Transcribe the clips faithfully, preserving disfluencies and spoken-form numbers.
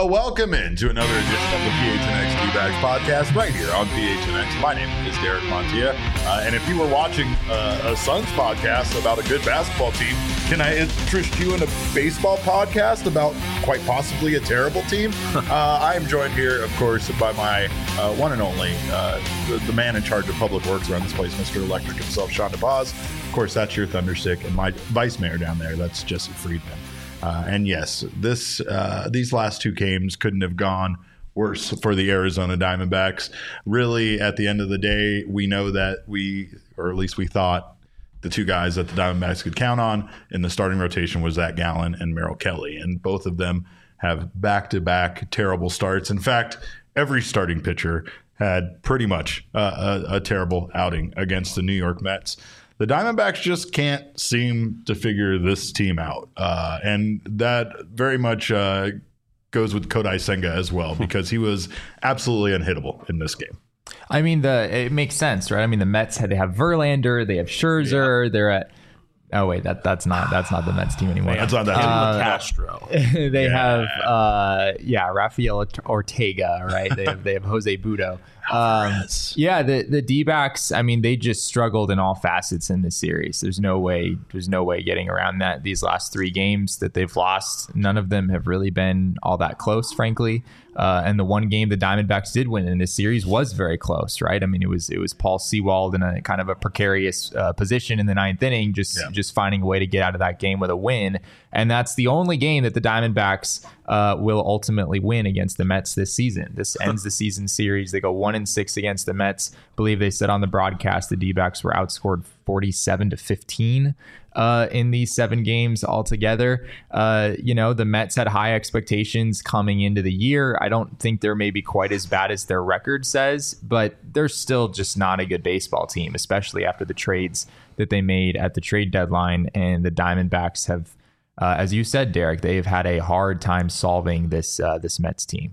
Well, welcome in to another edition of the P H N X D-Backs podcast right here on P H N X. My name is Derek Montilla, uh, and if you were watching uh, a Suns podcast about a good basketball team, can I interest you in a baseball podcast about quite possibly a terrible team? uh, I am joined here, of course, by my uh, one and only, uh, the, the man in charge of public works around this place, Mister Electric himself, Sean DePaz. Of course, that's your Thunderstick, and my vice mayor down there, that's Jesse Friedman. Uh, and yes, this uh, these last two games couldn't have gone worse for the Arizona Diamondbacks. Really, at the end of the day, we know that we, or at least we thought, the two guys that the Diamondbacks could count on in the starting rotation was Zach Gallen and Merrill Kelly. And both of them have back-to-back terrible starts. In fact, every starting pitcher had pretty much uh, a, a terrible outing against the New York Mets. The Diamondbacks just can't seem to figure this team out. Uh, and that very much uh, goes with Kodai Senga as well, because he was absolutely unhittable in this game. I mean, the it makes sense, right? I mean, the Mets had they have Verlander, they have Scherzer, yeah. They're at oh wait, that that's not that's not the Mets team anymore. That's not that uh, team. Castro. they yeah. have uh, yeah, Rafael Ortega, right? They have they have Jose Budo. Um, yeah, the the D-backs, I mean, they just struggled in all facets in this series. There's no way, there's no way getting around that. These last three games that they've lost, none of them have really been all that close, frankly. Uh, and the one game the Diamondbacks did win in this series was very close, right? I mean, it was it was Paul Sewald in a kind of a precarious uh, position in the ninth inning, just yeah. just finding a way to get out of that game with a win. And that's the only game that the Diamondbacks uh, will ultimately win against the Mets this season. This ends the season series. They go one and six against the Mets. I believe they said on the broadcast the D-backs were outscored forty-seven to fifteen uh, in these seven games altogether. Uh, you know, the Mets had high expectations coming into the year. I don't think they're maybe quite as bad as their record says, but they're still just not a good baseball team, especially after the trades that they made at the trade deadline. And the Diamondbacks have, uh, as you said, Derek, they've had a hard time solving this uh, this Mets team.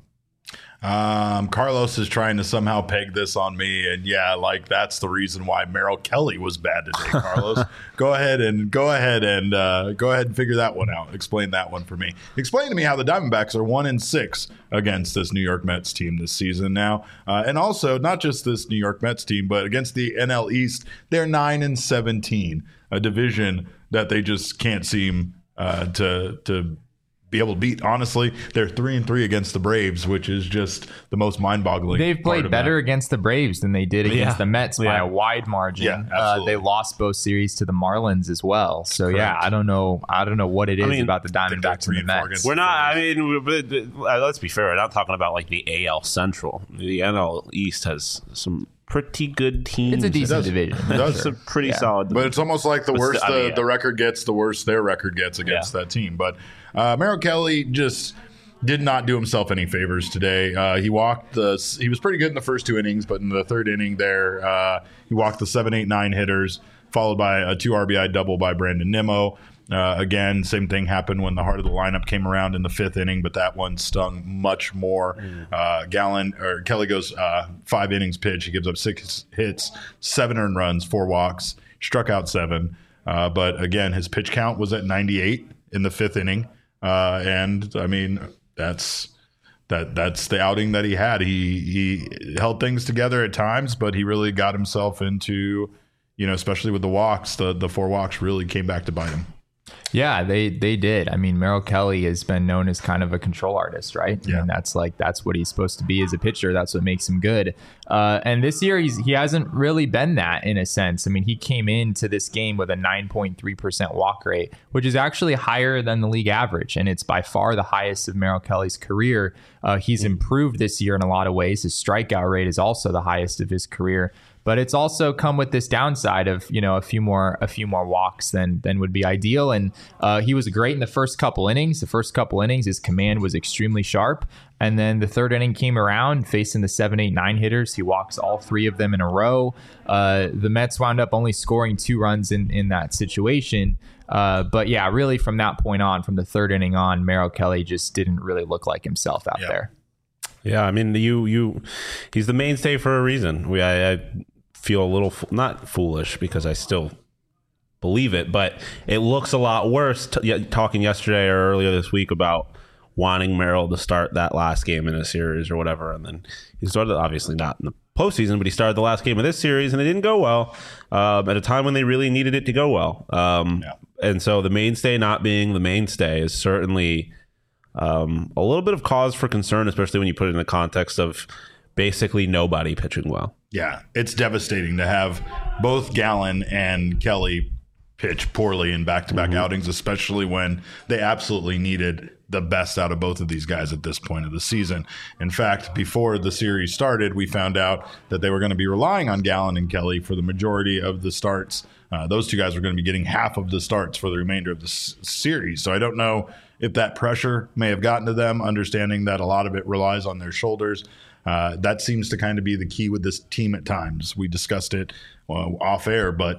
Um, Carlos is trying to somehow peg this on me, and yeah, like that's the reason why Merrill Kelly was bad today. Carlos, go ahead and go ahead and uh, go ahead and figure that one out. Explain that one for me. Explain to me how the Diamondbacks are one and six against this New York Mets team this season now, uh, and also not just this New York Mets team, but against the N L East, they're nine and seventeen, a division that they just can't seem uh, to to. be able to beat. Honestly, they're three and three against the Braves, which is just the most mind-boggling. They've played better that. against the Braves than they did against yeah. the Mets by yeah. a wide margin. Yeah, uh, they lost both series to the Marlins as well. So Correct. yeah, I don't know. I don't know what it is I mean, about the Diamondbacks and the Mets. We're not. I mean, we're, let's be fair. We're not talking about like the A L Central. The N L East has some pretty good teams. It's a decent division. That's sure. a pretty yeah. solid division. But it's almost like the but worse still, the, I mean, yeah. the record gets, the worse their record gets against yeah. that team. But uh, Merrill Kelly just did not do himself any favors today. Uh, he walked the. He was pretty good in the first two innings, but in the third inning there, uh, he walked the seven, eight, nine hitters, followed by a two R B I double by Brandon Nimmo. Uh, again, same thing happened when the heart of the lineup came around in the fifth inning, but that one stung much more. Mm. Uh, Gallen or Kelly goes uh, five innings pitch. He gives up six hits, seven earned runs, four walks, struck out seven. Uh, but again, his pitch count was at ninety-eight in the fifth inning, uh, and I mean that's that that's the outing that he had. He he held things together at times, but he really got himself into, you know, especially with the walks, the the four walks really came back to bite him. Yeah, they they did. I mean, Merrill Kelly has been known as kind of a control artist, right? Yeah. And that's like that's what he's supposed to be as a pitcher. That's what makes him good. Uh, and this year, he's he hasn't really been that in a sense. I mean, he came into this game with a nine point three percent walk rate, which is actually higher than the league average, and it's by far the highest of Merrill Kelly's career. Uh, he's improved this year in a lot of ways. His strikeout rate is also the highest of his career. But it's also come with this downside of, you know, a few more a few more walks than than would be ideal. And uh, he was great in the first couple innings. The first couple innings, his command was extremely sharp. And then the third inning came around, facing the seven, eight, nine hitters. He walks all three of them in a row. Uh, the Mets wound up only scoring two runs in, in that situation. Uh, but yeah, really from that point on, from the third inning on, Merrill Kelly just didn't really look like himself out yep. there. Yeah, I mean, you you he's the mainstay for a reason. We I, I feel a little not foolish because I still believe it, but it looks a lot worse. T- talking yesterday or earlier this week about wanting Merrill to start that last game in a series or whatever. And then he started, obviously not in the postseason, but he started the last game of this series and it didn't go well um, at a time when they really needed it to go well. Um, yeah. And so the mainstay not being the mainstay is certainly um, a little bit of cause for concern, especially when you put it in the context of basically nobody pitching well. Yeah, it's devastating to have both Gallen and Kelly pitch poorly in back-to-back mm-hmm. outings, especially when they absolutely needed the best out of both of these guys at this point of the season. In fact, before the series started, we found out that they were going to be relying on Gallen and Kelly for the majority of the starts. Uh, those two guys were going to be getting half of the starts for the remainder of the s- series. So I don't know if that pressure may have gotten to them, understanding that a lot of it relies on their shoulders. Uh, that seems to kind of be the key with this team at times. We discussed it uh, off air, but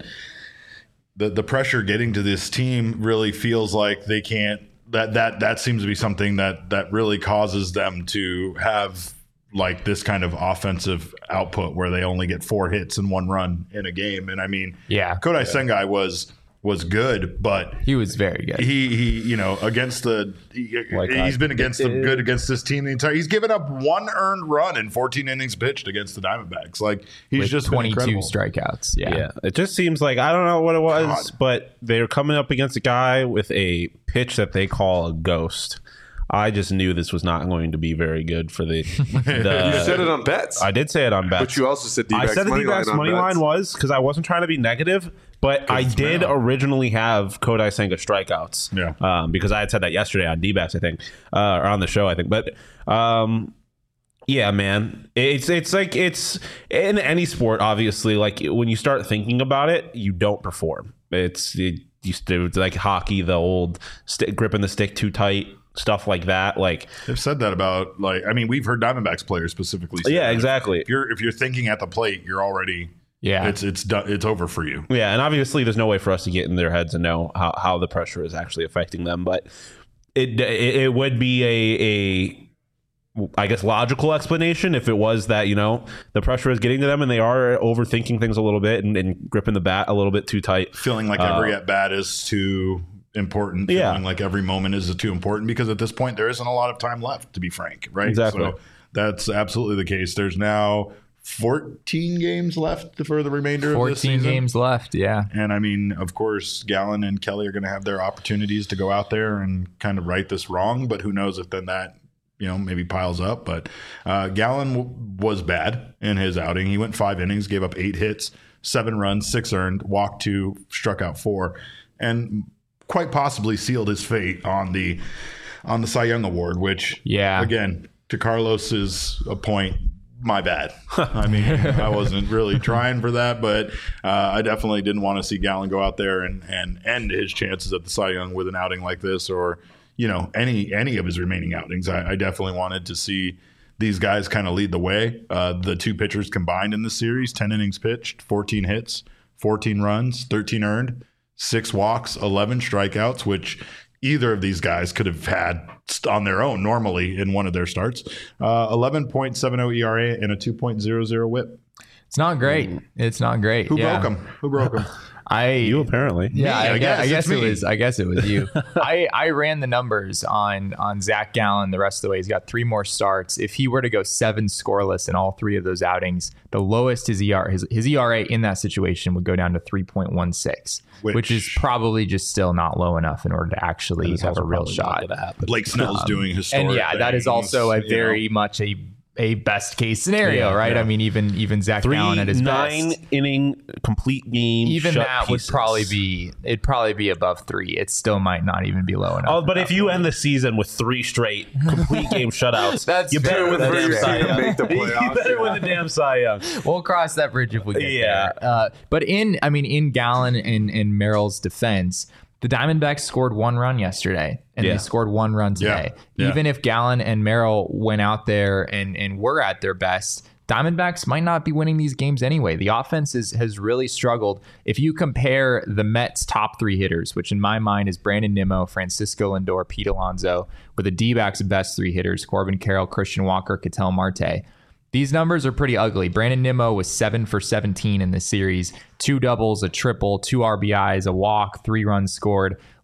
the the pressure getting to this team really feels like they can't. That that that seems to be something that that really causes them to have like this kind of offensive output where they only get four hits and one run in a game. And I mean, yeah, Kodai yeah. Sengai was. was good, but he was very good. He, he you know, against the, he, like he's I been against the good against this team the entire, he's given up one earned run in fourteen innings pitched against the Diamondbacks. Like he's With just twenty-two strikeouts. Yeah. yeah. It just seems like, I don't know what it was, God. But they're coming up against a guy with a pitch that they call a ghost. I just knew this was not going to be very good for the. the you said it on bets. I did say it on bets, but you also said D-backs I said the money D-backs line money line was because I wasn't trying to be negative, but I did Merrill. originally have Kodai Senga strikeouts. Yeah, um, because I had said that yesterday on D-backs, I think, uh, or on the show, I think, but. Um, Yeah, man. It's it's like it's in any sport, obviously. Like when you start thinking about it, you don't perform. It's it, it's like hockey, the old stick, gripping the stick too tight, stuff like that. Like they've said that about like I mean we've heard Diamondbacks players specifically. Say yeah, that. exactly. If you're if you're thinking at the plate, you're already yeah. It's it's done. It's over for you. Yeah, and obviously there's no way for us to get in their heads and know how, how the pressure is actually affecting them, but it it, it would be a a. I guess logical explanation if it was that, you know, the pressure is getting to them and they are overthinking things a little bit and, and gripping the bat a little bit too tight. Feeling like every uh, at bat is too important. Yeah. Feeling like every moment is too important because at this point there isn't a lot of time left, to be frank. Right. Exactly. So that's absolutely the case. There's now fourteen games left for the remainder of this season. fourteen games left, yeah. And I mean, of course, Gallen and Kelly are going to have their opportunities to go out there and kind of right this wrong. But who knows if then that, you know, maybe piles up. But uh, Gallen w- was bad in his outing. He went five innings, gave up eight hits, seven runs, six earned, walked two, struck out four, and quite possibly sealed his fate on the on the Cy Young Award, which, yeah, again, to Carlos's point, my bad. I mean, I wasn't really trying for that, but uh, I definitely didn't want to see Gallen go out there and, and end his chances at the Cy Young with an outing like this or, you know, any any of his remaining outings. I, I definitely wanted to see these guys kind of lead the way. Uh, the two pitchers combined in this series, ten innings pitched, fourteen hits, fourteen runs, thirteen earned, six walks, eleven strikeouts, which either of these guys could have had on their own normally in one of their starts. Uh, eleven point seven oh E R A and a two point oh oh whip. It's not great. It's not great. Who yeah. broke them? Who broke them? I you apparently yeah me, I, I guess, guess, I guess it me. was I guess it was you. I, I ran the numbers on on Zach Gallen the rest of the way. He's got three more starts. If he were to go seven scoreless in all three of those outings, the lowest his E R his, his E R A in that situation would go down to three point one six, which, which is probably just still not low enough in order to actually have a real shot. Blake Snell's um, doing historic and yeah, things, that is also a very know. much a a best case scenario, yeah, right? yeah. I mean, even even Zach Three, Gallen at his nine best, inning complete game. even shut that pieces. would probably be it'd probably be above three. It still might not even be low enough. Oh, but if you end the season with three straight complete game shutouts, That's you better fair. win the That's damn fair. Cy Young. Make the playoffs, You better yeah. win the damn Cy Young. We'll cross that bridge if we get Yeah. there. Uh, but in, I mean, in Gallen and, and Merrill's defense, the Diamondbacks scored one run yesterday, and Yeah. they scored one run today. Yeah. Yeah. Even if Gallen and Merrill went out there and, and were at their best, Diamondbacks might not be winning these games anyway. The offense is, has really struggled. If you compare the Mets' top three hitters, which in my mind is Brandon Nimmo, Francisco Lindor, Pete Alonso, with the D-backs' best three hitters, Corbin Carroll, Christian Walker, Ketel Marte. These numbers are pretty ugly. Brandon Nimmo was seven for seventeen in this series. Two doubles, a triple, two R B Is, a walk, three runs scored.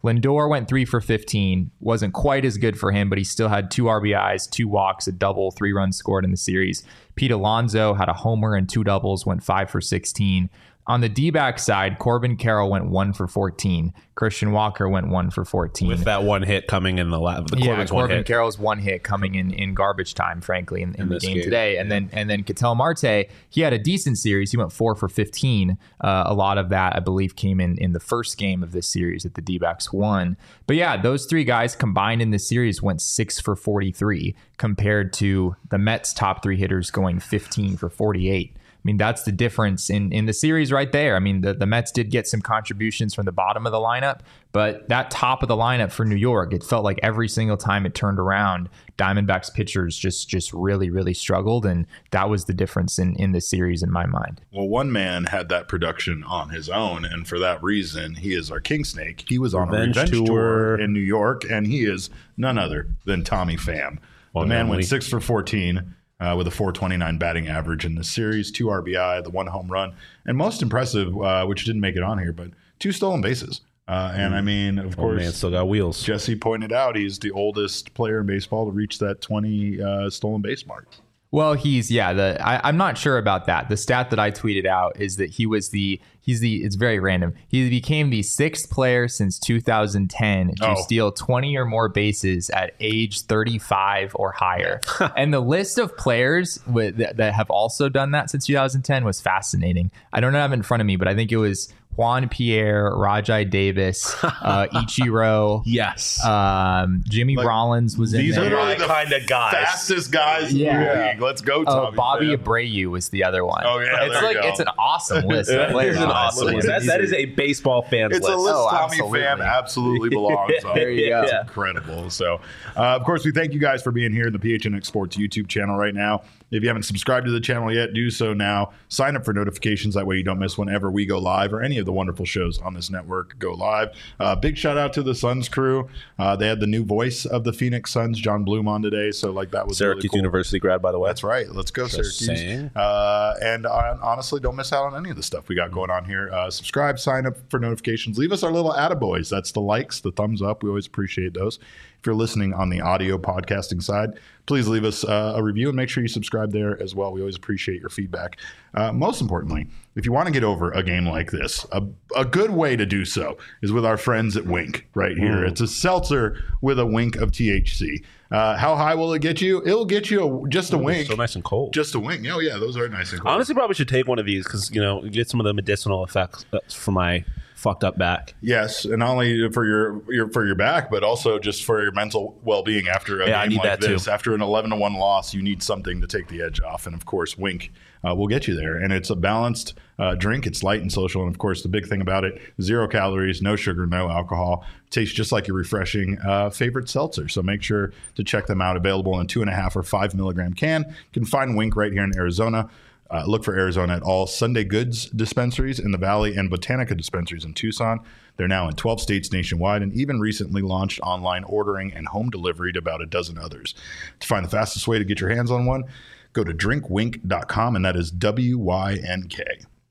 Lindor went three for fifteen. Wasn't quite as good for him, but he still had two R B Is, two walks, a double, three runs scored in the series. Pete Alonso had a homer and two doubles, went five for sixteen. On the D-back side, Corbin Carroll went one for fourteen. Christian Walker went one for fourteen. With that one hit coming in the lab. The yeah, Corbin's Corbin one hit. Carroll's one hit coming in, in garbage time, frankly, in, in, in the game, game today. And then and then Ketel Marte, he had a decent series. He went four for fifteen. Uh, a lot of that, I believe, came in in the first game of this series that the D-backs won. But yeah, those three guys combined in this series went six for forty-three compared to the Mets' top three hitters going fifteen for forty-eight. I mean, that's the difference in, in the series right there. I mean, the, the Mets did get some contributions from the bottom of the lineup, but that top of the lineup for New York, it felt like every single time it turned around, Diamondbacks pitchers just just really, really struggled. And that was the difference in, in the series in my mind. Well, one man had that production on his own, and for that reason, he is our King Snake. He was on Revenge a revenge tour. tour in New York, and he is none other than Tommy Pham. Well, the man normally. went six for fourteen. Uh, with a four twenty-nine batting average in the series, two R B I, the one home run, and most impressive, uh, which didn't make it on here, but two stolen bases. Uh, and I mean, of Oh, course, man, still got wheels. Jesse pointed out he's the oldest player in baseball to reach that twenty uh, stolen base mark. Well, he's yeah. The I, I'm not sure about that. The stat that I tweeted out is that he was the he's the it's very random. He became the sixth player since two thousand ten to Oh. steal twenty or more bases at age thirty-five or higher. And the list of players with, that, that have also done that since two thousand ten was fascinating. I don't have it in front of me, but I think it was Juan Pierre, Rajai Davis, uh, Ichiro. Yes. Um, Jimmy Like, Rollins was in These there. are my really the kinda guys. fastest guys in Yeah. the league. Let's go, Oh, Tommy. Bobby Pham. Abreu was the other one. Oh, yeah, it's there like you go. it's an awesome list. of That players, is an honestly. awesome list. That, that is a baseball fan's It's list. a list Oh, Tommy absolutely. Pham absolutely belongs on. There you go. It's incredible. So, uh, of course, we thank you guys for being here in the P H N X Sports YouTube channel right now. If you haven't subscribed to the channel yet, do so now. Sign up for notifications. That way you don't miss whenever we go live or any of the wonderful shows on this network go live. Uh, big shout out to the Suns crew. Uh, they had the new voice of the Phoenix Suns, John Bloom, on today. So, like, that was Syracuse really cool. University grad, by the way. That's right. Let's go, Just Syracuse. saying. Uh, and uh, honestly, don't miss out on any of the stuff we got going on here. Uh, subscribe, sign up for notifications. Leave us our little attaboys. That's the likes, the thumbs up. We always appreciate those. If you're listening on the audio podcasting side, please leave us uh, a review and make sure you subscribe there as well. We always appreciate your feedback. Uh, most importantly, if you want to get over a game like this, a, a good way to do so is with our friends at Wink right here. Mm. It's a seltzer with a wink of T H C. Uh, how high will it get you? It'll get you a, just a wink. So nice and cold. Just a wing. Oh, yeah, those are nice and cool. Honestly, probably should take one of these because, you know, get some of the medicinal effects for my fucked up back. Yes, and not only for your, your for your back, but also just for your mental well-being after a Yeah, I game need like that too. this. After an eleven to one loss, you need something to take the edge off, and of course, Wink uh, will get you there. And it's a balanced uh, drink. It's light and social, and of course, the big thing about it: zero calories, no sugar, no alcohol. Tastes just like your refreshing uh, favorite seltzer. So make sure to check them out. Available in a two and a half or five milligram can. You can find Wink right here in Arizona. Uh, look for Arizona at all Sunday Goods dispensaries in the Valley and Botanica dispensaries in Tucson. They're now in twelve states nationwide and even recently launched online ordering and home delivery to about a dozen others. To find the fastest way to get your hands on one, go to drink wink dot com, and that is W Y N K.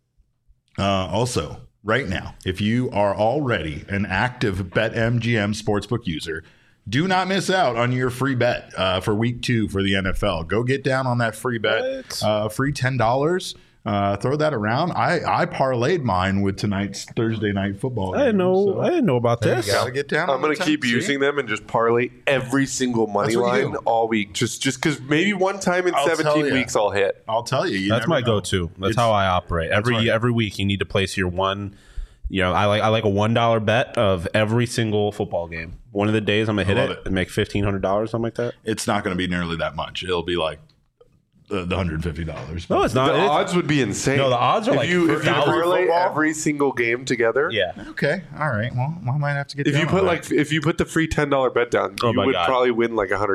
Uh, also, right now, if you are already an active BetMGM Sportsbook user, do not miss out on your free bet uh, for week two for the N F L. Go get down on that free bet. Uh, free ten dollars. Uh, throw that around. I, I parlayed mine with tonight's Thursday night football. I didn't game, know. so I didn't know about this. Gotta get down. I'm on the going to keep ten, see? using them and just parlay every single money That's what you line do. all week. Just just because maybe one time in I'll tell seventeen ya. weeks I'll hit. I'll tell you. you That's never my know. go-to. That's It's- how I operate. Every right. every week, you need to place your one. You know, I like I like a one dollar bet of every single football game. One of the days, I'm gonna hit love it, it. and make fifteen hundred dollars, something like that. It's not going to be nearly that much. It'll be like uh, the one hundred fifty dollars. No, it's not. The It's- odds would be insane. No, the odds are if like you if you for parlay football? every single game together. yeah. Okay. All right. Well, I might have to get If down you on put that. like if you put the free ten dollar bet down, Oh you my would God. probably win like a hundred k.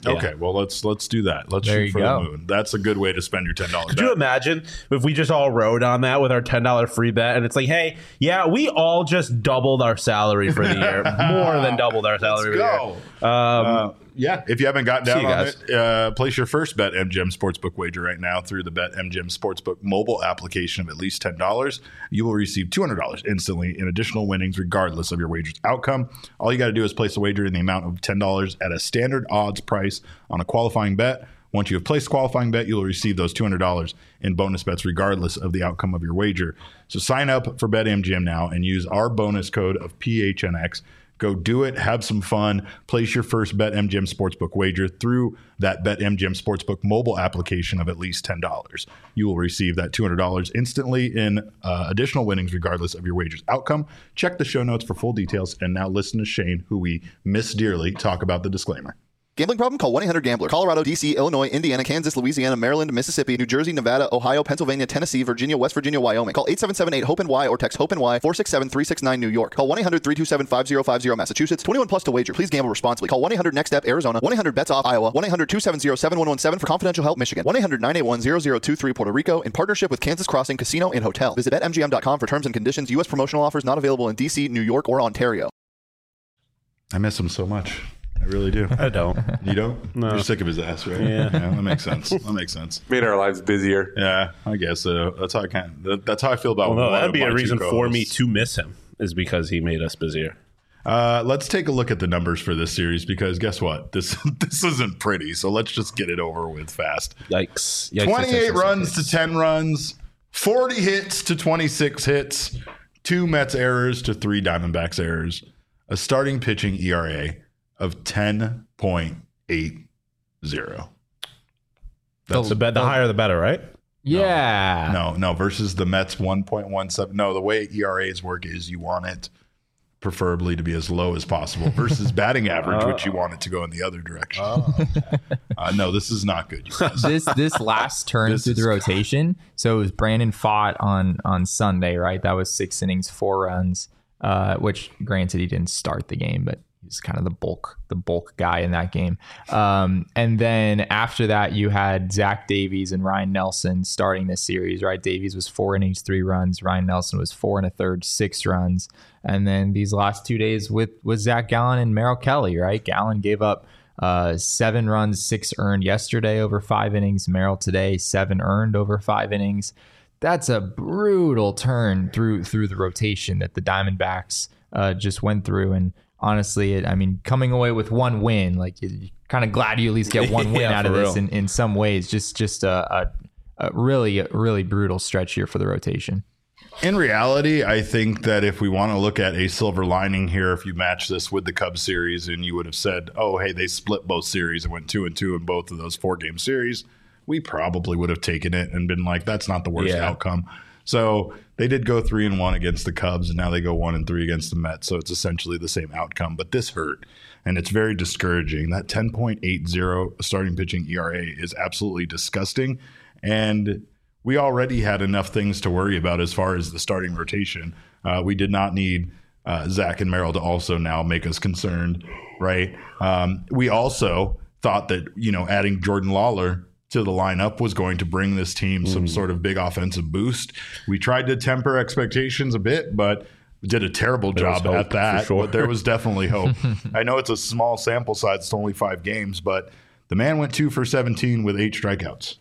Okay, well let's let's do that. Let's There shoot you for go. the moon. That's a good way to spend your ten dollars. Could you imagine if we just all rode on that with our ten dollars free bet and it's like, hey, yeah, we all just doubled our salary for the year. More than doubled our salary Let's for go. the year. Um, Uh, yeah, if you haven't gotten See down you on guys. it, uh, place your first BetMGM Sportsbook wager right now through the BetMGM Sportsbook mobile application of at least ten dollars. You will receive two hundred dollars instantly in additional winnings regardless of your wager's outcome. All you got to do is place a wager in the amount of ten dollars at a standard odds price on a qualifying bet. Once you have placed a qualifying bet, you will receive those two hundred dollars in bonus bets regardless of the outcome of your wager. So sign up for BetMGM now and use our bonus code of P H N X. Go do it. Have some fun. Place your first BetMGM Sportsbook wager through that BetMGM Sportsbook mobile application of at least ten dollars. You will receive that two hundred dollars instantly in uh, additional winnings regardless of your wager's outcome. Check the show notes for full details. And now listen to Shane, who we miss dearly, talk about the disclaimer. Gambling problem? Call one eight hundred gambler. Colorado, D C, Illinois, Indiana, Kansas, Louisiana, Maryland, Mississippi, New Jersey, Nevada, Ohio, Pennsylvania, Tennessee, Virginia, West Virginia, Wyoming. Call eight seven seven eight hope N Y or text HOPE-N Y four six seven three six nine New York. Call one eight hundred three two seven five zero five zero Massachusetts. twenty-one plus to wager. Please gamble responsibly. Call one eight hundred next step Arizona. one eight hundred bets off Iowa. one eight hundred two seven zero seven one one seven for confidential help Michigan. one eight hundred nine eight one zero zero two three Puerto Rico in partnership with Kansas Crossing Casino and Hotel. Visit bet M G M dot com for terms and conditions. U S promotional offers not available in D C, New York, or Ontario. I miss him so much. I really do. I don't. You don't? No. You're sick of his ass, right? Yeah. that makes sense. That makes sense. Made our lives busier. Yeah, I guess so. That's how I kind of, that's how I feel about Well, no, one that'd of be my a two reason for me co-hosts. to miss him, is because he made us busier. Uh, let's take a look at the numbers for this series because guess what? This this isn't pretty. So let's just get it over with fast. Yikes. Yikes, twenty-eight yikes, yikes, runs yikes. to ten runs, forty hits to twenty-six hits, two Mets errors to three Diamondbacks errors, a starting pitching E R A of ten point eight zero. That's the, bet, the higher the better, right? Yeah. No, no, versus the Mets one point one seven. No, the way E R As work is you want it preferably to be as low as possible versus batting average, which you want it to go in the other direction. uh, no, this is not good, you guys. this this last turn This through is the rotation. So it was Brandon Pfaadt on on Sunday, right? That was six innings, four runs. Uh, which granted he didn't start the game, but he's kind of the bulk the bulk guy in that game. Um, and then after that, you had Zach Davies and Ryan Nelson starting this series, right? Davies was four innings, three runs. Ryan Nelson was four and a third, six runs. And then these last two days with with Zach Gallen and Merrill Kelly, right? Gallen gave up uh, seven runs, six earned yesterday over five innings. Merrill today, seven earned over five innings. That's a brutal turn through through the rotation that the Diamondbacks uh, just went through. And honestly, it, I mean, coming away with one win, like you, you're kind of glad you at least get one win Yeah, out of for this real. in, in some ways. Just just a, a, a really, really brutal stretch here for the rotation. In reality, I think that if we want to look at a silver lining here, if you match this with the Cubs series and you would have said, oh, hey, they split both series and went two and two in both of those four game series, we probably would have taken it and been like, that's not the worst Yeah. outcome. So they did go three and one against the Cubs, and now they go one and three against the Mets. So it's essentially the same outcome. But this hurt, and it's very discouraging. That ten point eight zero starting pitching E R A is absolutely disgusting. And we already had enough things to worry about as far as the starting rotation. Uh, we did not need uh, Zach and Merrill to also now make us concerned, right? Um, we also thought that, you know, adding Jordan Lawler to the lineup was going to bring this team some sort of big offensive boost. We tried to temper expectations a bit, but did a terrible There was job hope, at that. for sure. But there was definitely hope. I know it's a small sample size, it's only five games, but the man went two for seventeen with eight strikeouts.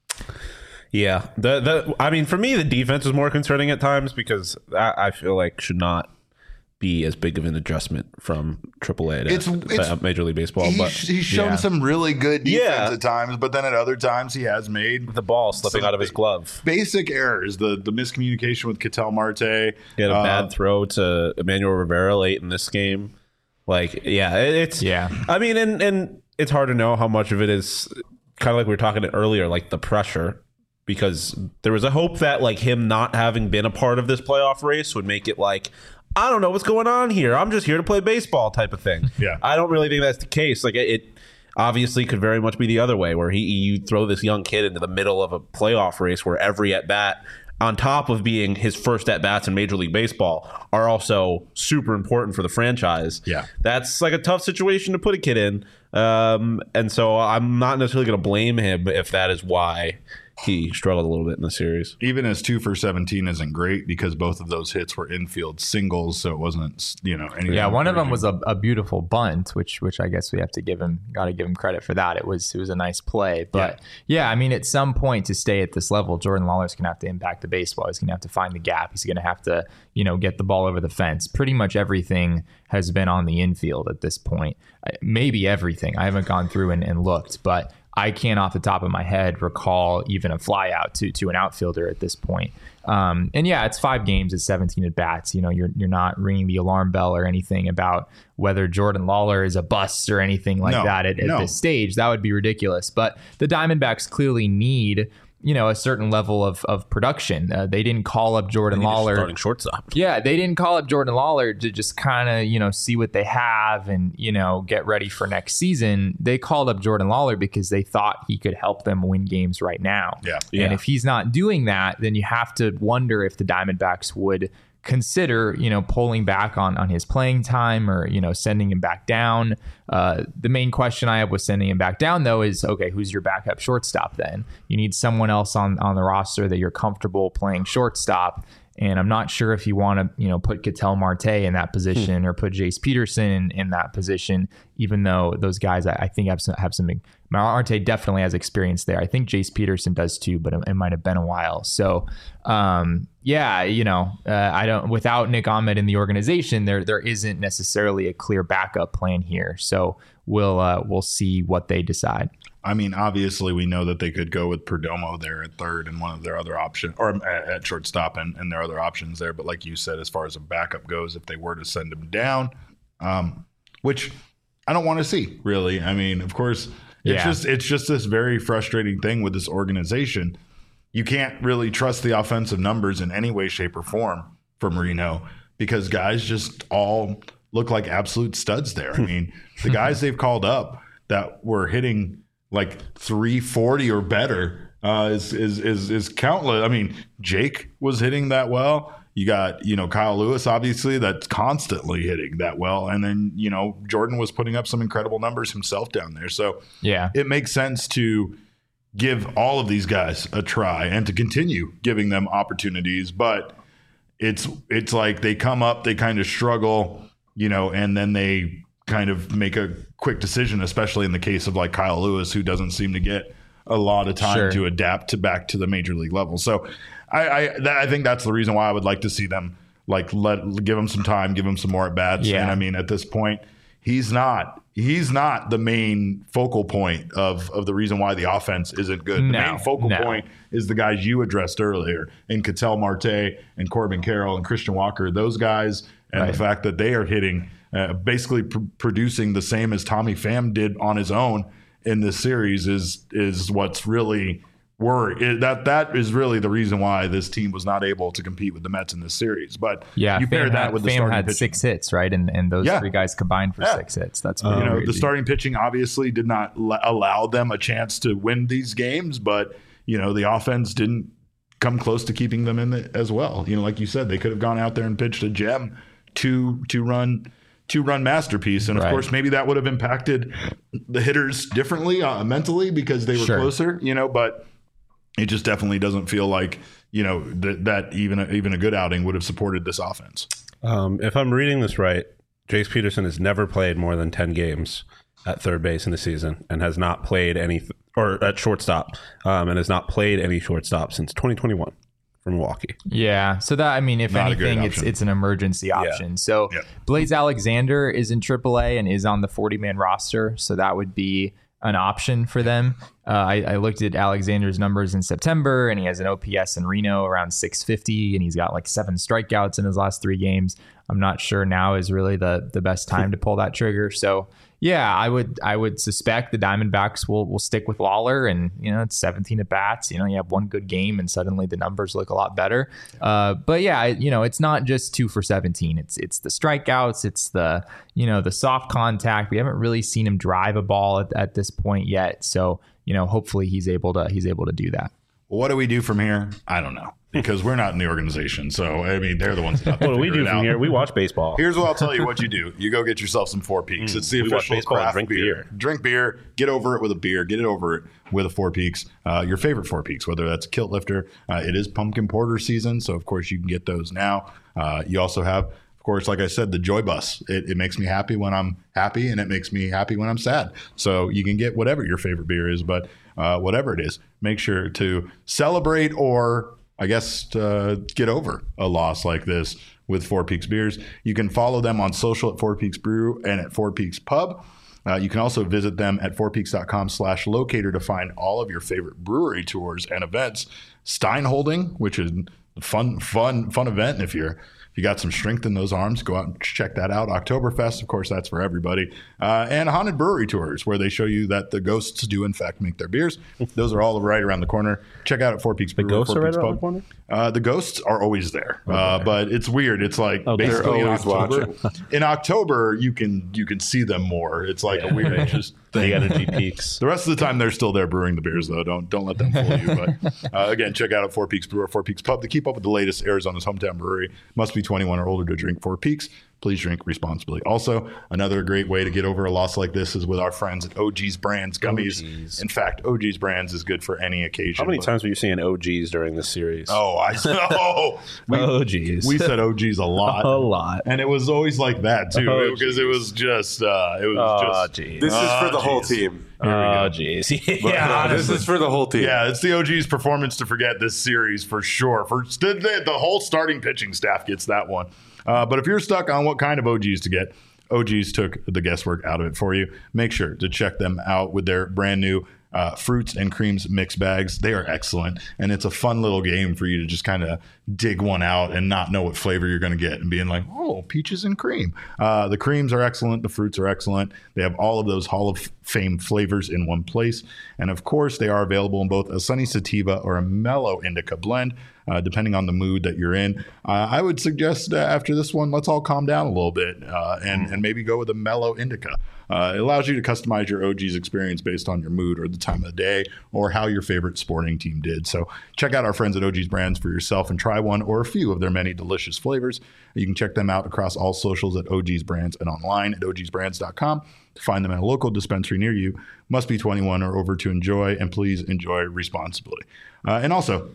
Yeah, the the I mean, for me, the defense is more concerning at times because I, I feel like should not be as big of an adjustment from triple A to, It's- to it's- Major League Baseball. He's, but he's shown yeah. some really good defense Yeah. at times, but then at other times he has made the ball slipping some out of his glove. basic errors. The the miscommunication with Ketel Marte. He had a uh, bad throw to Emmanuel Rivera late in this game. Like, yeah, it, it's Yeah. I mean, and and it's hard to know how much of it is kind of like we were talking earlier, like the pressure, because there was a hope that like him not having been a part of this playoff race would make it like, I don't know what's going on here. I'm just here to play baseball type of thing. Yeah. I don't really think that's the case. Like it, it obviously could very much be the other way, where he you throw this young kid into the middle of a playoff race where every at bat on top of being his first at-bats in Major League Baseball, are also super important for the franchise. Yeah. That's like a tough situation to put a kid in. Um, and so I'm not necessarily going to blame him if that is why he struggled a little bit in the series. Even his two for seventeen isn't great because both of those hits were infield singles, so it wasn't, you know, anything. Yeah, one of them was a, a beautiful bunt, which which I guess we have to give him, got to give him credit for that. It was it was a nice play, but yeah. yeah, I mean, at some point to stay at this level, Jordan Lawler's gonna have to impact the baseball. He's gonna have to find the gap. He's gonna have to, you know, get the ball over the fence. Pretty much everything has been on the infield at this point. Maybe everything. I haven't gone through and, and looked, but I can't off the top of my head recall even a fly out to to an outfielder at this point. Um, and yeah, it's five games, it's seventeen at bats. You know, you're you're not ringing the alarm bell or anything about whether Jordan Lawler is a bust or anything like No, that at, at no. this stage. That would be ridiculous. But the Diamondbacks clearly need, you know, a certain level of of production. Uh, they didn't call up Jordan Lawler. Starting shortstop. Yeah, they didn't call up Jordan Lawler to just kind of, you know, see what they have and, you know, get ready for next season. They called up Jordan Lawler because they thought he could help them win games right now. Yeah. Yeah. And if he's not doing that, then you have to wonder if the Diamondbacks would consider, you know, pulling back on on his playing time or, you know, sending him back down. Uh, the main question I have with sending him back down, though, is, okay, who's your backup shortstop then? You need someone else on, on the roster that you're comfortable playing shortstop. And I'm not sure if you want to, you know, put Ketel Marte in that position hmm. or put Jace Peterson in, in that position, even though those guys, I, I think have some, have some, Marte definitely has experience there. I think Jace Peterson does too, but it, it might have been a while. So, um, yeah, you know, uh, I don't, without Nick Ahmed in the organization, there, there isn't necessarily a clear backup plan here. So we'll, uh, we'll see what they decide. I mean, obviously, we know that they could go with Perdomo there at third and one of their other options, or at, at shortstop and, and their other options there. But like you said, as far as a backup goes, if they were to send him down, um, which I don't want to see, really. I mean, of course, it's Yeah. just it's just this very frustrating thing with this organization. You can't really trust the offensive numbers in any way, shape, or form from Reno because guys just all look like absolute studs there. I mean, the guys they've called up that were hitting like three forty or better uh, is, is is is countless. I mean, Jake was hitting that well. You got, you know, Kyle Lewis, obviously, that's constantly hitting that well. And then, you know, Jordan was putting up some incredible numbers himself down there. So yeah, it makes sense to give all of these guys a try and to continue giving them opportunities. But it's it's like they come up, they kind of struggle, you know, and then they kind of make a quick decision, especially in the case of like Kyle Lewis, who doesn't seem to get a lot of time Sure. to adapt to back to the major league level. So I I, that, I think that's the reason why I would like to see them like let give him some time, give him some more at bats. Yeah. And I mean, at this point, he's not he's not the main focal point of of the reason why the offense isn't good. The No, main focal no. point is the guys you addressed earlier, in Ketel Marte and Corbin Carroll and Christian Walker. Those guys, and Right. the fact that they are hitting. Uh, basically pr- producing the same as Tommy Pham did on his own in this series is is what's really worry. That that is really the reason why this team was not able to compete with the Mets in this series. But Yeah, you pair Pham that had, with the Pham starting had pitching. six hits, right? And and those Yeah. three guys combined for Yeah. six hits. That's pretty You know, crazy. the starting pitching obviously did not l- allow them a chance to win these games, but you know the offense didn't come close to keeping them in the, as well. You know, like you said, they could have gone out there and pitched a gem, two two run. two run masterpiece. And of Right. course, maybe that would have impacted the hitters differently uh, mentally because they were Sure. closer, you know, but it just definitely doesn't feel like, you know, that, that even, a, even a good outing would have supported this offense. Um, if I'm reading this right, Jace Peterson has never played more than ten games at third base in the season and has not played any, or at shortstop, um, and has not played any shortstop since twenty twenty-one. From Milwaukee. Yeah. So that, I mean, if Not a good anything, it's option. it's an emergency option. So Yeah. Blaze Alexander is in triple A and is on the forty man roster. So that would be an option for them. Uh, I, I looked at Alexander's numbers in September and he has an O P S in Reno around six fifty and he's got like seven strikeouts in his last three games. I'm not sure now is really the the best time to pull that trigger. So yeah, I would I would suspect the Diamondbacks will will stick with Lawler, and you know it's seventeen at bats. You know you have one good game, and suddenly the numbers look a lot better. Uh, but yeah, you know it's not just two for seventeen. It's it's the strikeouts, it's the you know the soft contact. We haven't really seen him drive a ball at, at this point yet. So you know hopefully he's able to he's able to do that. What do we do from here? I don't know, because we're not in the organization. So, I mean, they're the ones that have to What do we figure do it from out. here? We watch baseball. Here's what I'll tell you what you do. You go get yourself some Four Peaks. Mm, It's the we watch official baseball and craft drink beer. beer. Drink beer. Get over it with a beer. Get it over it with a Four Peaks. Uh, your favorite Four Peaks, whether that's a Kilt Lifter. Uh, it is pumpkin porter season, so of course you can get those now. Uh, you also have, of course, like I said, the Joy Bus. It, it makes me happy when I'm happy, and it makes me happy when I'm sad. So you can get whatever your favorite beer is, but uh, whatever it is, make sure to celebrate or, I guess, uh, get over a loss like this with Four Peaks Beers. You can follow them on social at Four Peaks Brew and at Four Peaks Pub. Uh, you can also visit them at fourpeaks.com slash locator to find all of your favorite brewery tours and events. Stein Holding, which is a fun, fun, fun event. If you're if you got some strength in those arms, go out and check that out. Oktoberfest, of course, that's for everybody. Uh, and Haunted Brewery Tours, where they show you that the ghosts do, in fact, make their beers. Those are all right around the corner. Check out at Four Peaks Brewery. The ghosts Four are right Peaks around Pub. the corner? Uh, the ghosts are always there, uh, but it's weird. It's like Okay. basically in They're always October. In October, you can you can see them more. It's like a weird just They thing. got a G Peaks. The rest of the time, they're still there brewing the beers, though. Don't don't let them fool you. But uh, again, check out at Four Peaks Brewer, Four Peaks Pub to keep up with the latest Arizona's hometown brewery. Must be twenty-one or older to drink Four Peaks. Please drink responsibly. Also, another great way to get over a loss like this is with our friends at O G's Brands Gummies. O G's. In fact, O G's Brands is good for any occasion. How many but- times were you saying O Gs during this series? Oh, I know. We, O Gs. we said O G's a lot. A lot. And it was always like that, too, Oh, because it was just, uh, it was Oh, just. geez. This is for Oh, the whole geez. team. Oh, jeez. Yeah, This is for the whole team. Yeah, it's the O G's performance to forget this series for sure. For the, the, the whole starting pitching staff gets that one. Uh, but if you're stuck on what kind of O G's to get, O G's took the guesswork out of it for you. Make sure to check them out with their brand new uh, fruits and creams mix bags. They are excellent, and it's a fun little game for you to just kind of dig one out and not know what flavor you're going to get and being like, oh, peaches and cream. Uh, the creams are excellent. The fruits are excellent. They have all of those Hall of Fame flavors in one place. And of course, they are available in both a sunny sativa or a mellow indica blend, uh, depending on the mood that you're in. Uh, I would suggest uh, after this one, let's all calm down a little bit uh, and, and maybe go with a mellow indica. Uh, it allows you to customize your O G's experience based on your mood or the time of the day or how your favorite sporting team did. So check out our friends at O G's Brands for yourself and try one or a few of their many delicious flavors. You can check them out across all socials at O G's Brands and online at O Gs brands dot com to find them at a local dispensary near you. Must be twenty-one or over to enjoy, and please enjoy responsibly. Uh, and also,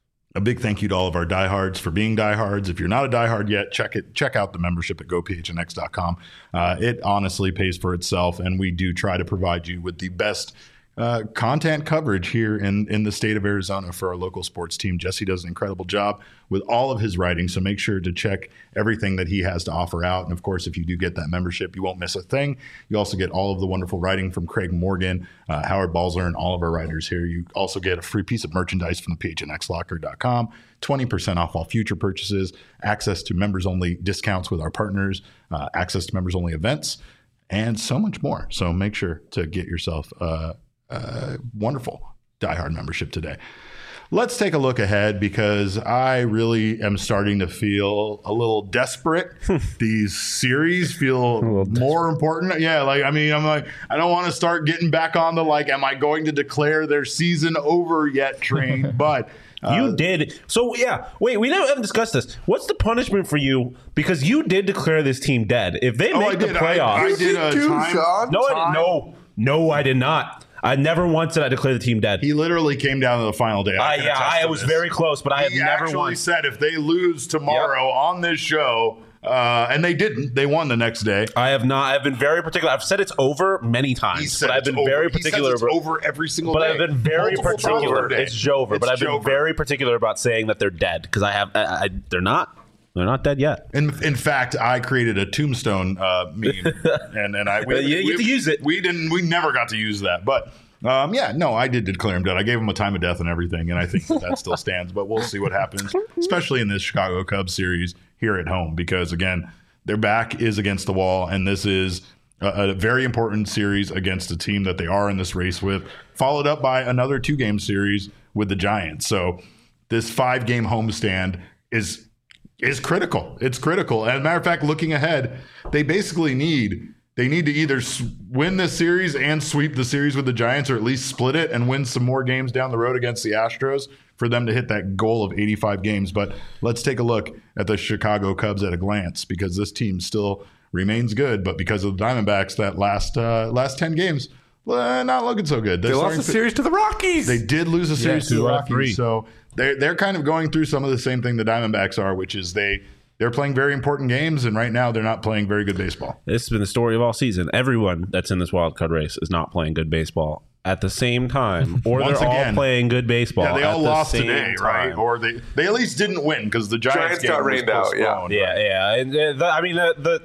a big thank you to all of our diehards for being diehards. If you're not a diehard yet, check it. Check out the membership at go p h n x dot com. Uh, it honestly pays for itself, and we do try to provide you with the best uh, content coverage here in, in the state of Arizona for our local sports team. Jesse does an incredible job with all of his writing, so make sure to check everything that he has to offer out. And of course, if you do get that membership, you won't miss a thing. You also get all of the wonderful writing from Craig Morgan, uh, Howard Balzer, and all of our writers here. You also get a free piece of merchandise from the p h n x locker dot com, twenty percent off all future purchases, access to members-only discounts with our partners, uh, access to members-only events, and so much more. So make sure to get yourself a, a wonderful diehard membership today. Let's take a look ahead because I really am starting to feel a little desperate. These series feel more important. Yeah, like, I mean, I'm like, I don't want to start getting back on the, like, am I going to declare their season over yet train? But uh, You did. So, yeah. Wait, we never haven't discussed this. What's the punishment for you? Because you did declare this team dead. If they Oh, make I the did. I- playoffs. I did a Too, time- Sean. no, I time. didn't. No. No, I did not. I never once did I declare the team dead. He literally came down to the final day. Uh, can yeah, attest I to was this. very close, but I have He never actually once. said if they lose tomorrow on this show, uh, and they didn't, they won the next day. I have not. I've been very particular. I've said it's over many times, He said but I've it's been over. very He says particular. it's about, over every single but day. I've been very Multiple times particular. per day. It's Jover, It's but I've been Jover. very particular about saying that they're dead because I have. I, I, they're not. They're not dead yet. In, in fact, I created a tombstone uh, meme, and and I we, You get we, to use it. We didn't. We never got to use that, but. Um, yeah, no, I did declare him dead. I gave him a time of death and everything, and I think that, that still stands. But we'll see what happens, especially in this Chicago Cubs series here at home, because again, their back is against the wall, and this is a, a very important series against a team that they are in this race with, followed up by another two-game series with the Giants. So this five-game homestand is is critical. It's critical. As a matter of fact, looking ahead, they basically need. They need to either win this series and sweep the series with the Giants, or at least split it and win some more games down the road against the Astros, for them to hit that goal of eighty-five games. But let's take a look at the Chicago Cubs at a glance, because this team still remains good. But because of the Diamondbacks, that last uh, last ten games, well, not looking so good. They lost a series to the Rockies. They did lose a series Yeah, to the two out of Rockies. three. So they're, they're kind of going through some of the same thing the Diamondbacks are, which is they, they're playing very important games, and right now they're not playing very good baseball. This has been the story of all season. Everyone that's in this wild card race is not playing good baseball at the same time, or Once they're again, all playing good baseball. Yeah, they all at the lost same today, time. right? Or they, they at least didn't win because the Giants, Giants game got was rained out, yeah. postponed, Yeah, right? yeah. And, uh, the, I mean, the, the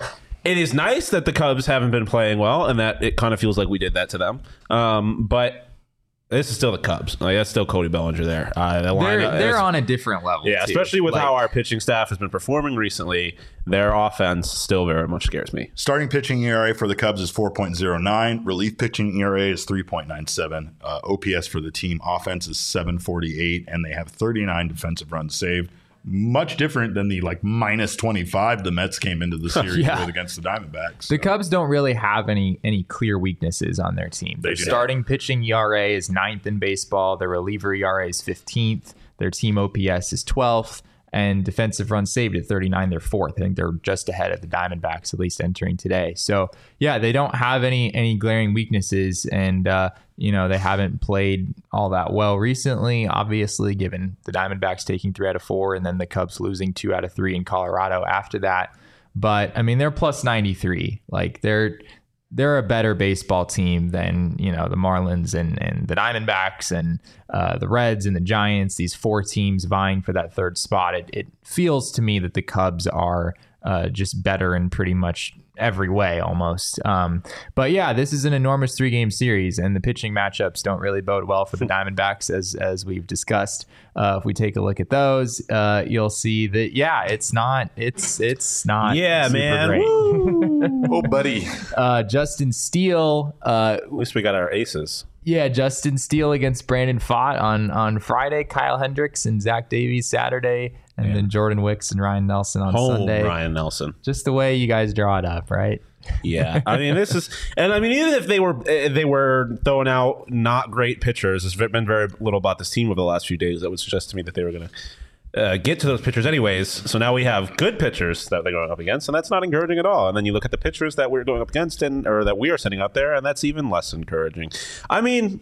it is nice that the Cubs haven't been playing well, and that it kind of feels like we did that to them. Um, but this is still the Cubs. Like, that's still Cody Bellinger there. Uh, the They're lineup they're is- on a different level. Yeah, too. especially with Like, how our pitching staff has been performing recently. Their offense still very much scares me. Starting pitching E R A for the Cubs is four point oh nine. Relief pitching E R A is three point nine seven. Uh, O P S for the team offense is seven forty-eight, and they have thirty-nine defensive runs saved. Much different than the like minus twenty-five the Mets came into the series Yeah. with against the Diamondbacks. The Cubs don't really have any any clear weaknesses on their team. Their do not. starting pitching E R A is ninth in baseball. Their reliever E R A is fifteenth. Their team O P S is twelfth. And defensive runs saved at thirty-nine. They're fourth. I think they're just ahead of the Diamondbacks, at least entering today. So, yeah, they don't have any any glaring weaknesses. And, uh, you know, they haven't played all that well recently, obviously, given the Diamondbacks taking three out of four and then the Cubs losing two out of three in Colorado after that. But, I mean, they're plus ninety-three. Like, they're they're a better baseball team than, you know, the Marlins and, and the Diamondbacks and uh, the Reds and the Giants, these four teams vying for that third spot. It, it feels to me that the Cubs are uh, just better in pretty much every way almost. Um, but yeah, this is an enormous three game series, and the pitching matchups don't really bode well for the Diamondbacks, as as we've discussed. Uh, if we take a look at those, uh, you'll see that yeah, it's not it's it's not Yeah, super man. great. Woo. Oh, buddy. Uh, Justin Steele, uh, At least we got our aces. yeah, Justin Steele against Brandon Pfaadt on on Friday, Kyle Hendricks and Zach Davies Saturday, and then Jordan Wicks and Ryan Nelson on Home Sunday. Ryan Nelson. Just the way you guys draw it up, right? Yeah, I mean this is, and I mean even if they were eh, they were throwing out not great pitchers, there's been very little about this team over the last few days that would suggest to me that they were going to uh, get to those pitchers anyways. So now we have good pitchers that they're going up against, and that's not encouraging at all. And then you look at the pitchers that we're going up against, and or that we are sending out there, and that's even less encouraging. I mean,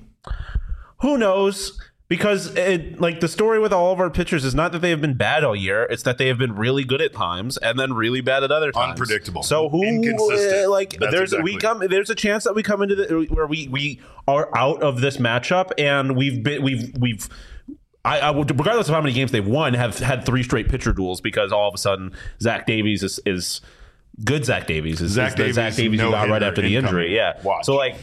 who knows? Because it, like the story with all of our pitchers is not that they have been bad all year; it's that they have been really good at times and then really bad at other times. Unpredictable. So who Inconsistent. uh, like That's there's exactly. we come there's a chance that we come into the where we we are out of this matchup, and we've been we've we've. I, I would, regardless of how many games they've won, have had three straight pitcher duels because all of a sudden Zach Davies is, is good. Zach Davies is Zach is the Davies, Zach Davies who no got right hitter after the incoming. injury. Yeah. Watch. So like,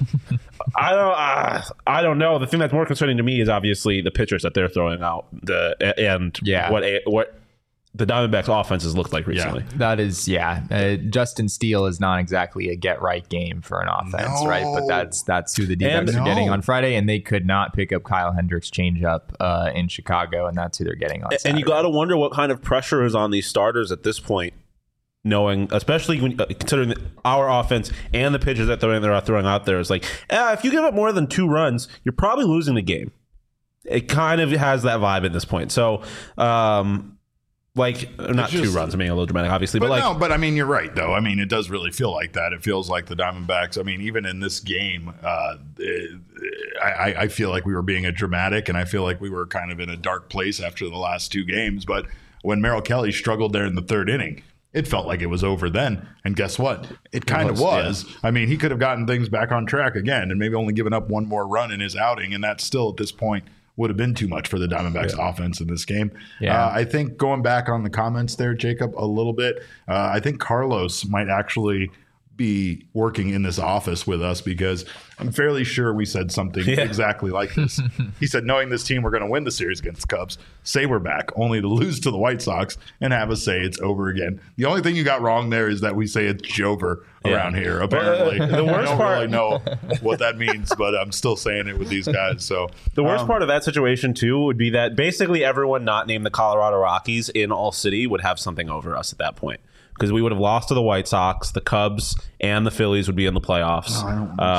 I don't, uh, I don't know. The thing that's more concerning to me is obviously the pitchers that they're throwing out. The and Yeah. what a, what the Diamondbacks offense has looked like recently. That is, yeah. Uh, Justin Steele is not exactly a get right game for an offense, No. right? But that's that's who the D-backs And- are getting No. on Friday, and they could not pick up Kyle Hendricks' changeup uh, in Chicago, and that's who they're getting on. And Saturday. you got to wonder what kind of pressure is on these starters at this point, knowing, especially when uh, considering that our offense and the pitchers that they're, they're throwing out there is like, eh, if you give up more than two runs, you're probably losing the game. It kind of has that vibe at this point. So, um, like, not just- two runs, I'm being a little dramatic, obviously, But but, like, no, but I mean, you're right, though. I mean, it does really feel like that. It feels like the Diamondbacks. I mean, even in this game, uh, I, I feel like we were being a dramatic, and I feel like we were kind of in a dark place after the last two games. But when Merrill Kelly struggled there in the third inning, it felt like it was over then. And guess what? It kind of was, was. I mean, he could have gotten things back on track again and maybe only given up one more run in his outing, and that still at this point would have been too much for the Diamondbacks offense in this game. Yeah. Uh, I think going back on the comments there, Jacob, a little bit, uh, I think Carlos might actually be working in this office with us because I'm fairly sure we said something Yeah. exactly like this. He said, knowing this team, we're going to win the series against the Cubs, say we're back, only to lose to the White Sox and have us say it's over again. The only thing you got wrong there is that we say it's Jover around here, apparently. the worst I don't part- really know what that means, but I'm still saying it with these guys. So the worst um, part of that situation, too, would be that basically everyone not named the Colorado Rockies in all city would have something over us at that point. Because we would have lost to the White Sox, the Cubs, and the Phillies would be in the playoffs. I don't want um, to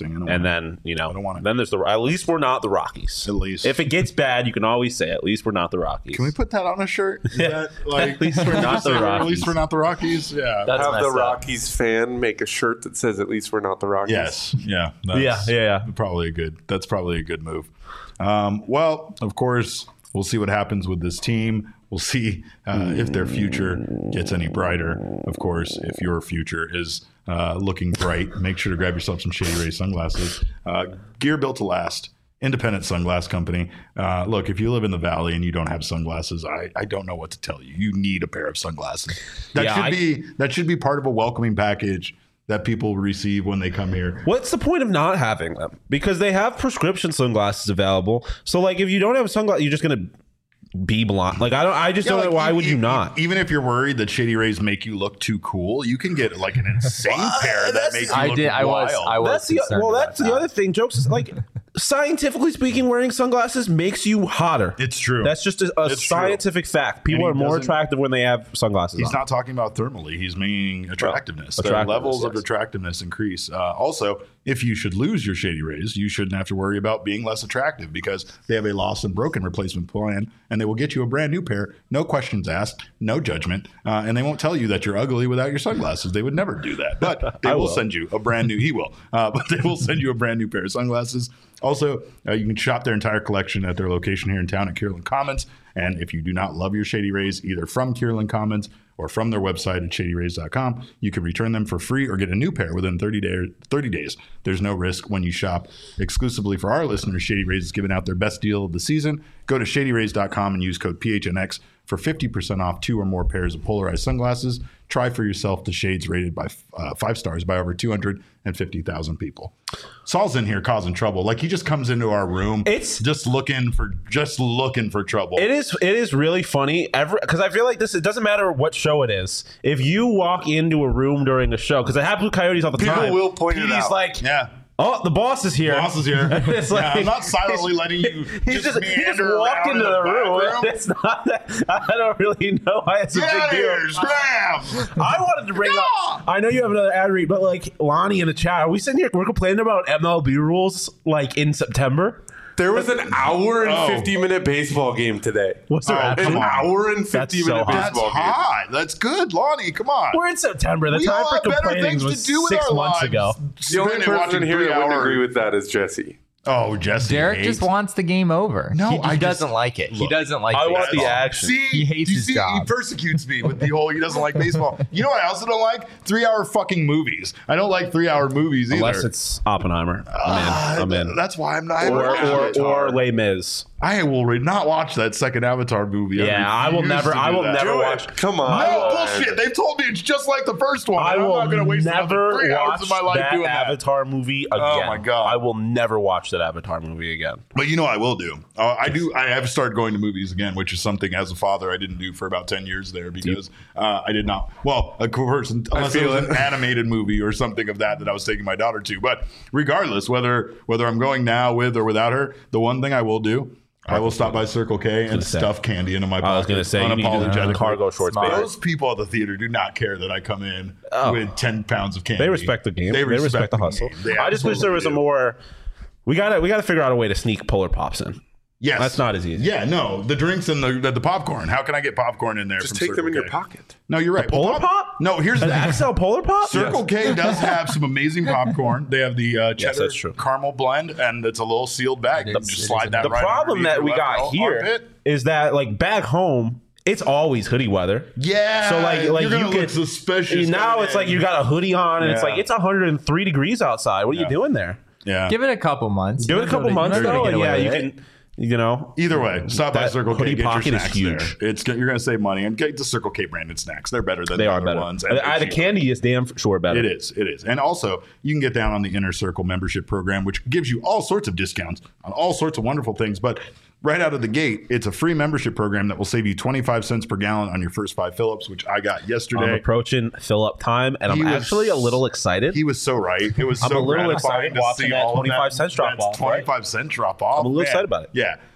boxing. I don't And want then, you know, I don't want it. then there's the, at least we're not the Rockies. At least. If it gets bad, you can always say, at least we're not the Rockies. Can we put that on a shirt? Is that like At least we're not the At Rockies. least we're not the Rockies. Yeah. That's Have the messed up. Rockies fan make a shirt that says, at least we're not the Rockies. Yes. Yeah. That's Yeah, yeah, yeah. Probably a good. That's probably a good move. Um, well, of course, we'll see what happens with this team. We'll see uh, if their future gets any brighter. Of course, if your future is uh, looking bright, make sure to grab yourself some Shady Rays sunglasses. Uh, gear built to last. Independent sunglass company. Uh, look, if you live in the valley and you don't have sunglasses, I, I don't know what to tell you. You need a pair of sunglasses. That Yeah, should I- be that should be part of a welcoming package that people receive when they come here. What's the point of not having them? Because they have prescription sunglasses available. So, like, if you don't have sunglasses, you're just going to be blind. Like, I don't. I just Yeah, don't like, know. Why e- would you e- not? Even if you're worried that Shady Rays make you look too cool, you can get like an insane pair that That's- makes you I look did. I was. wild. I was. That's the concerned well. about That's the that. other thing. Jokes is like, scientifically speaking, wearing sunglasses makes you hotter. It's true. That's just a, a It's true. scientific fact. People he are more doesn't- attractive when they have sunglasses He's on. not talking about thermally. He's meaning attractiveness. The attractiveness, levels of yes. attractiveness increase. Uh, also, if you should lose your Shady Rays, you shouldn't have to worry about being less attractive because they have a lost and broken replacement plan, and they will get you a brand new pair, no questions asked, no judgment, uh, and they won't tell you that you're ugly without your sunglasses. They would never do that, but they I will, will. send you a brand new. He will, uh, but they will send you a brand new pair of sunglasses. Also, uh, you can shop their entire collection at their location here in town at Kierland Commons. And if you do not love your Shady Rays, either from Kierland Commons or from their website at shady rays dot com, you can return them for free or get a new pair within thirty days. thirty days. There's no risk when you shop. Exclusively for our listeners, Shady Rays is giving out their best deal of the season. Go to shady rays dot com and use code P H N X for fifty percent off two or more pairs of polarized sunglasses. Try for yourself the shades rated by uh, five stars by over two hundred fifty thousand people. Saul's in here causing trouble. Like he just comes into our room. It's- just looking for just looking for trouble. It is. It is really funny. Every because I feel like this. It doesn't matter what show it is. If you walk into a room during a show, because it happens with Coyotes all the People time. will point it He's out. like, Yeah. oh, the boss is here. Boss is here. It's Yeah, like- I'm not silently letting you He's just, just, he just meander walked around into in the, back room. It's not that, I don't really know why it's a Get out big of deal. here, scram! I wanted to bring up. I know you have another ad read, but like Lonnie in the chat, are we sitting here? We're complaining about M L B rules like in September. There was an hour and Oh. fifty minute baseball game today. What's the Oh, ad come An on. hour and That's fifty so minute hot. That's baseball game. hot. That's good, Lonnie. Come on. We're in September. The we time all for have better complaining things was to do with six our months lives. ago. The only Spending person watching here that wouldn't three-hour- agree with that is Jesse. Oh, Jesse. Derek hates- just wants the game over. No, he, he I just- doesn't like it. he Look, doesn't like. I want baseball. the action. See, He hates you his see, job. He persecutes me with the whole he doesn't like baseball. You know what I also don't like? Three-hour fucking movies. I don't like three-hour movies either. Unless it's Oppenheimer. Ah, I'm in. I'm in. That's why I'm not. I Or haven't watched or, it. or Les Mis. I will re- not watch that second Avatar movie. Yeah, I will refuse never. to I do will that. never Do watch. it. Come on. No man. bullshit. They've told me it's just like the first one. I and I'm will not going to waste another never three hours watch of my life that doing that. Avatar movie again. Oh, my God. I will never watch that Avatar movie again. But you know, I will do. Uh, I do. I have started going to movies again, which is something as a father I didn't do for about ten years there because uh, I did not. Well, of course, unless it feel was it. an animated movie or something of that that I was taking my daughter to. But regardless, whether whether I'm going now with or without her, the one thing I will do. I will stop by Circle K and say. stuff candy into my pocket. I was going to say you need to do the unapologetically. cargo shorts, Smart. baby. Those people at the theater do not care that I come in Oh. with ten pounds of candy. They respect the game. They respect, the hustle. game. They I just wish there was a absolutely do. more. We gotta we gotta figure out a way to sneak Polar Pops in. Yes, That's not as easy. Yeah, no, the drinks and the the, the popcorn. How can I get popcorn in there? Just from take them in Circle your K? pocket. No, you're right. Polar Well, Pop? No, here's An the X L Polar Pop? Circle K does have some amazing popcorn. They have the uh, cheddar that's true. caramel blend, and it's a little sealed bag. You It can is- just it slide is that The right problem underneath that your we left got ar- here armpit. is that like back home, it's always hoodie weather. Yeah. So like like you're gonna you look get suspicious. now coming it's in. like you got a hoodie on and it's Yeah. like it's one hundred three degrees outside. What are Yeah. you doing there? yeah. Give it a couple months. Give it a couple months You're not though. gonna and get Yeah, away you with it. can. You know, Either way, stop by That Circle K. hoodie Get your pocket is snacks huge. there. It's you're gonna save money and get the Circle K branded snacks. They're better than they the are other better. ones. and I, they're the cheaper. candy is damn sure better. It is. It is. And also, you can get down on the Inner Circle membership program, which gives you all sorts of discounts on all sorts of wonderful things. But right out of the gate, it's a free membership program that will save you twenty-five cents per gallon on your first five fill-ups, which I got I'm yesterday. approaching fill up time, and I'm He was- actually a little excited. He was so right. It was I'm so a little gratifying excited to watching see that all of twenty-five cents drop That's off, right? twenty-five cent drop off. I'm a little Man. excited about it. Yeah.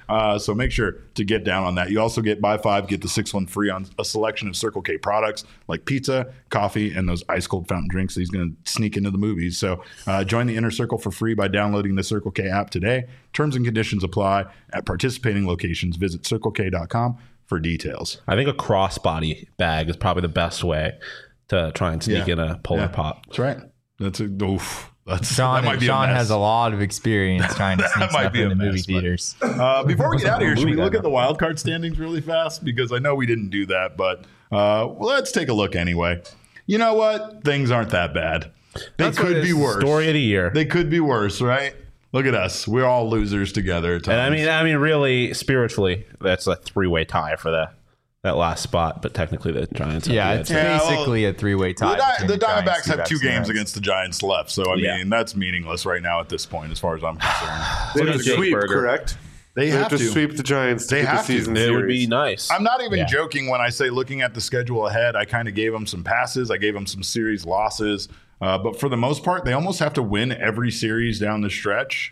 Uh, so make sure to get down on that. You also get buy five, get the sixth one free on a selection of Circle K products like pizza, coffee, and those ice cold fountain drinks that he's going to sneak into the movies. So uh, join the Inner Circle for free by downloading the Circle K app today. Terms and conditions apply at participating locations. Visit circle k dot com for details. I think a crossbody bag is probably the best way to try and sneak Yeah. in a Polar Yeah. Pop. That's right. That's a oof. That's Sean, that might be Sean a mess. has a lot of experience trying to sneak might stuff be a into movie mess, but- theaters. Uh, before we get out of here, should we Movie look guy. at the wild card standings really fast? Because I know we didn't do that, but uh, well, let's take a look anyway. You know what? Things aren't that bad. They That's what could it be is. worse. Story of the year. They could be worse, right? Look at us. We're all losers together at times. And I mean, I mean, really, spiritually, that's a three-way tie for the that last spot. But technically, the Giants. Have Yeah, the it's edge. Yeah, well, basically a three-way tie. the, Di- between the Giants, Diamondbacks have two D-backs, and games Reds. against the Giants left, so I Yeah. mean that's meaningless right now at this point, as far as I'm concerned. They Look have at to Jake sweep, Berger. correct? They They have have to to. sweep the Giants to They get the have to. season It series. would be nice. I'm not even Yeah. joking when I say looking at the schedule ahead. I kind of gave them some passes. I gave them some series losses. Uh, but for the most part, they almost have to win every series down the stretch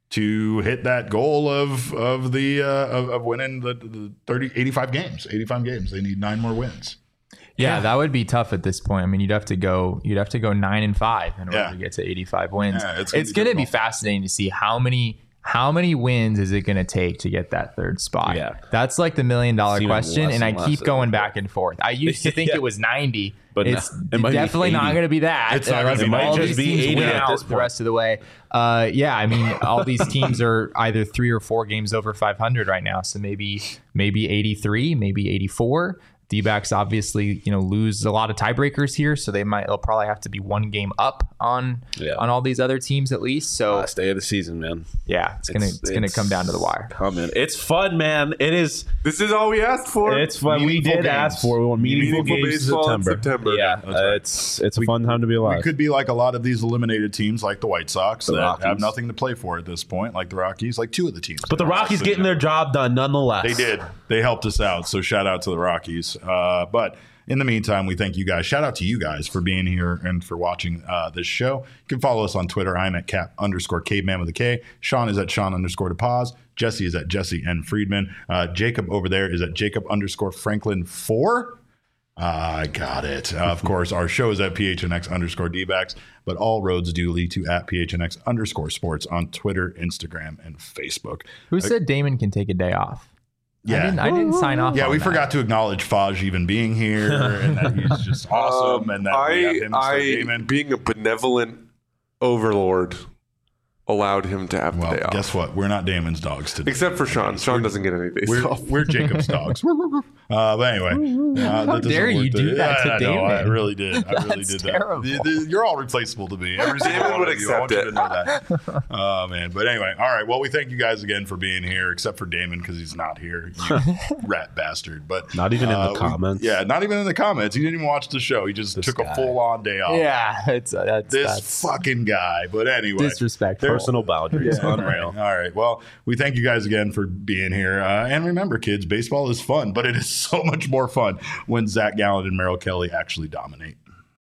to hit that goal of of the uh, of, of winning the, the thirty, eighty-five games. eighty-five games. They need nine more wins. Yeah, that would be tough at this point. I mean, you'd have to go, you'd have to go nine and five in order Yeah. to get to eighty-five wins. Yeah, it's it's going gonna to be be difficult. fascinating to see how many how many wins is it going to take to get that third spot. Yeah. That's like the million dollar Seeming question, less and I and keep less going every back and forth. I used to think Yeah. it was ninety, But but no, it's it might be definitely not eighty. going to be that. It's not gonna unless be all ninety. these Just be teams eighty win at out this the point. rest of the way. Uh, yeah, I mean, all these teams are either three or four games over five hundred right now, so maybe maybe eighty-three, maybe eighty-four. D-backs obviously, you know, lose a lot of tiebreakers here, so they might they'll probably have to be one game up on Yeah. on all these other teams at least. So Last day of the season, man. yeah, it's, gonna it's, gonna come down to the wire. Coming. It's fun, man. It is. This is all we asked for. It's fun. We Meaningful did games. ask for. We want meaningful, Meaningful games in baseball in September. September. Yeah, That's right. uh, it's it's a fun time to be alive. We could be like a lot of these eliminated teams, like the White Sox, The that Rockies. have nothing to play for at this point, like the Rockies, like two of the teams. but the Rockies getting their job done nonetheless. They did. They helped us out. So shout out to the Rockies. Uh, but in the meantime, we thank you guys. Shout out to you guys for being here and for watching uh, this show. You can follow us on Twitter. I'm at cap underscore caveman with a K. Sean is at Sean underscore DePaz. Jesse is at Jesse N. Friedman. Uh, Jacob over there is at Jacob underscore Franklin four. Uh, I got it. Uh, of course, our show is at P H N X underscore D-backs, but all roads do lead to at P H N X underscore sports on Twitter, Instagram, and Facebook. Who said Damon can take a day off? Yeah. I didn't, I didn't sign off. Yeah, on we that. forgot to acknowledge Faj even being here and that he's just awesome and that we have I, him instead of I Damon. being a benevolent overlord, allowed him to have the Well, day off. guess what? We're not Damon's dogs today. Except for Sean. Sean doesn't get any days We're, off. we're Jacob's dogs. Uh, but anyway, uh, that doesn't dare you work do that to I know, I Damon? really did. I really That's did terrible. that. The- the- you're all replaceable to me. Every single Damon one would of you. I want accept you it. to know that. Oh man. But anyway, all right. Well, we thank you guys again for being here, except for Damon because he's not here. You rat bastard. But Not even in uh, the we- comments. yeah, not even in the comments. He didn't even watch the show. He just took guy. a full on day off. Yeah, it's uh, that's, This that's fucking guy. But anyway. disrespectful. Personal boundaries. All Unreal. right. All right. Well, we thank you guys again for being here. Uh, and remember, kids, baseball is fun, but it is so much more fun when Zach Gallen and Merrill Kelly actually dominate.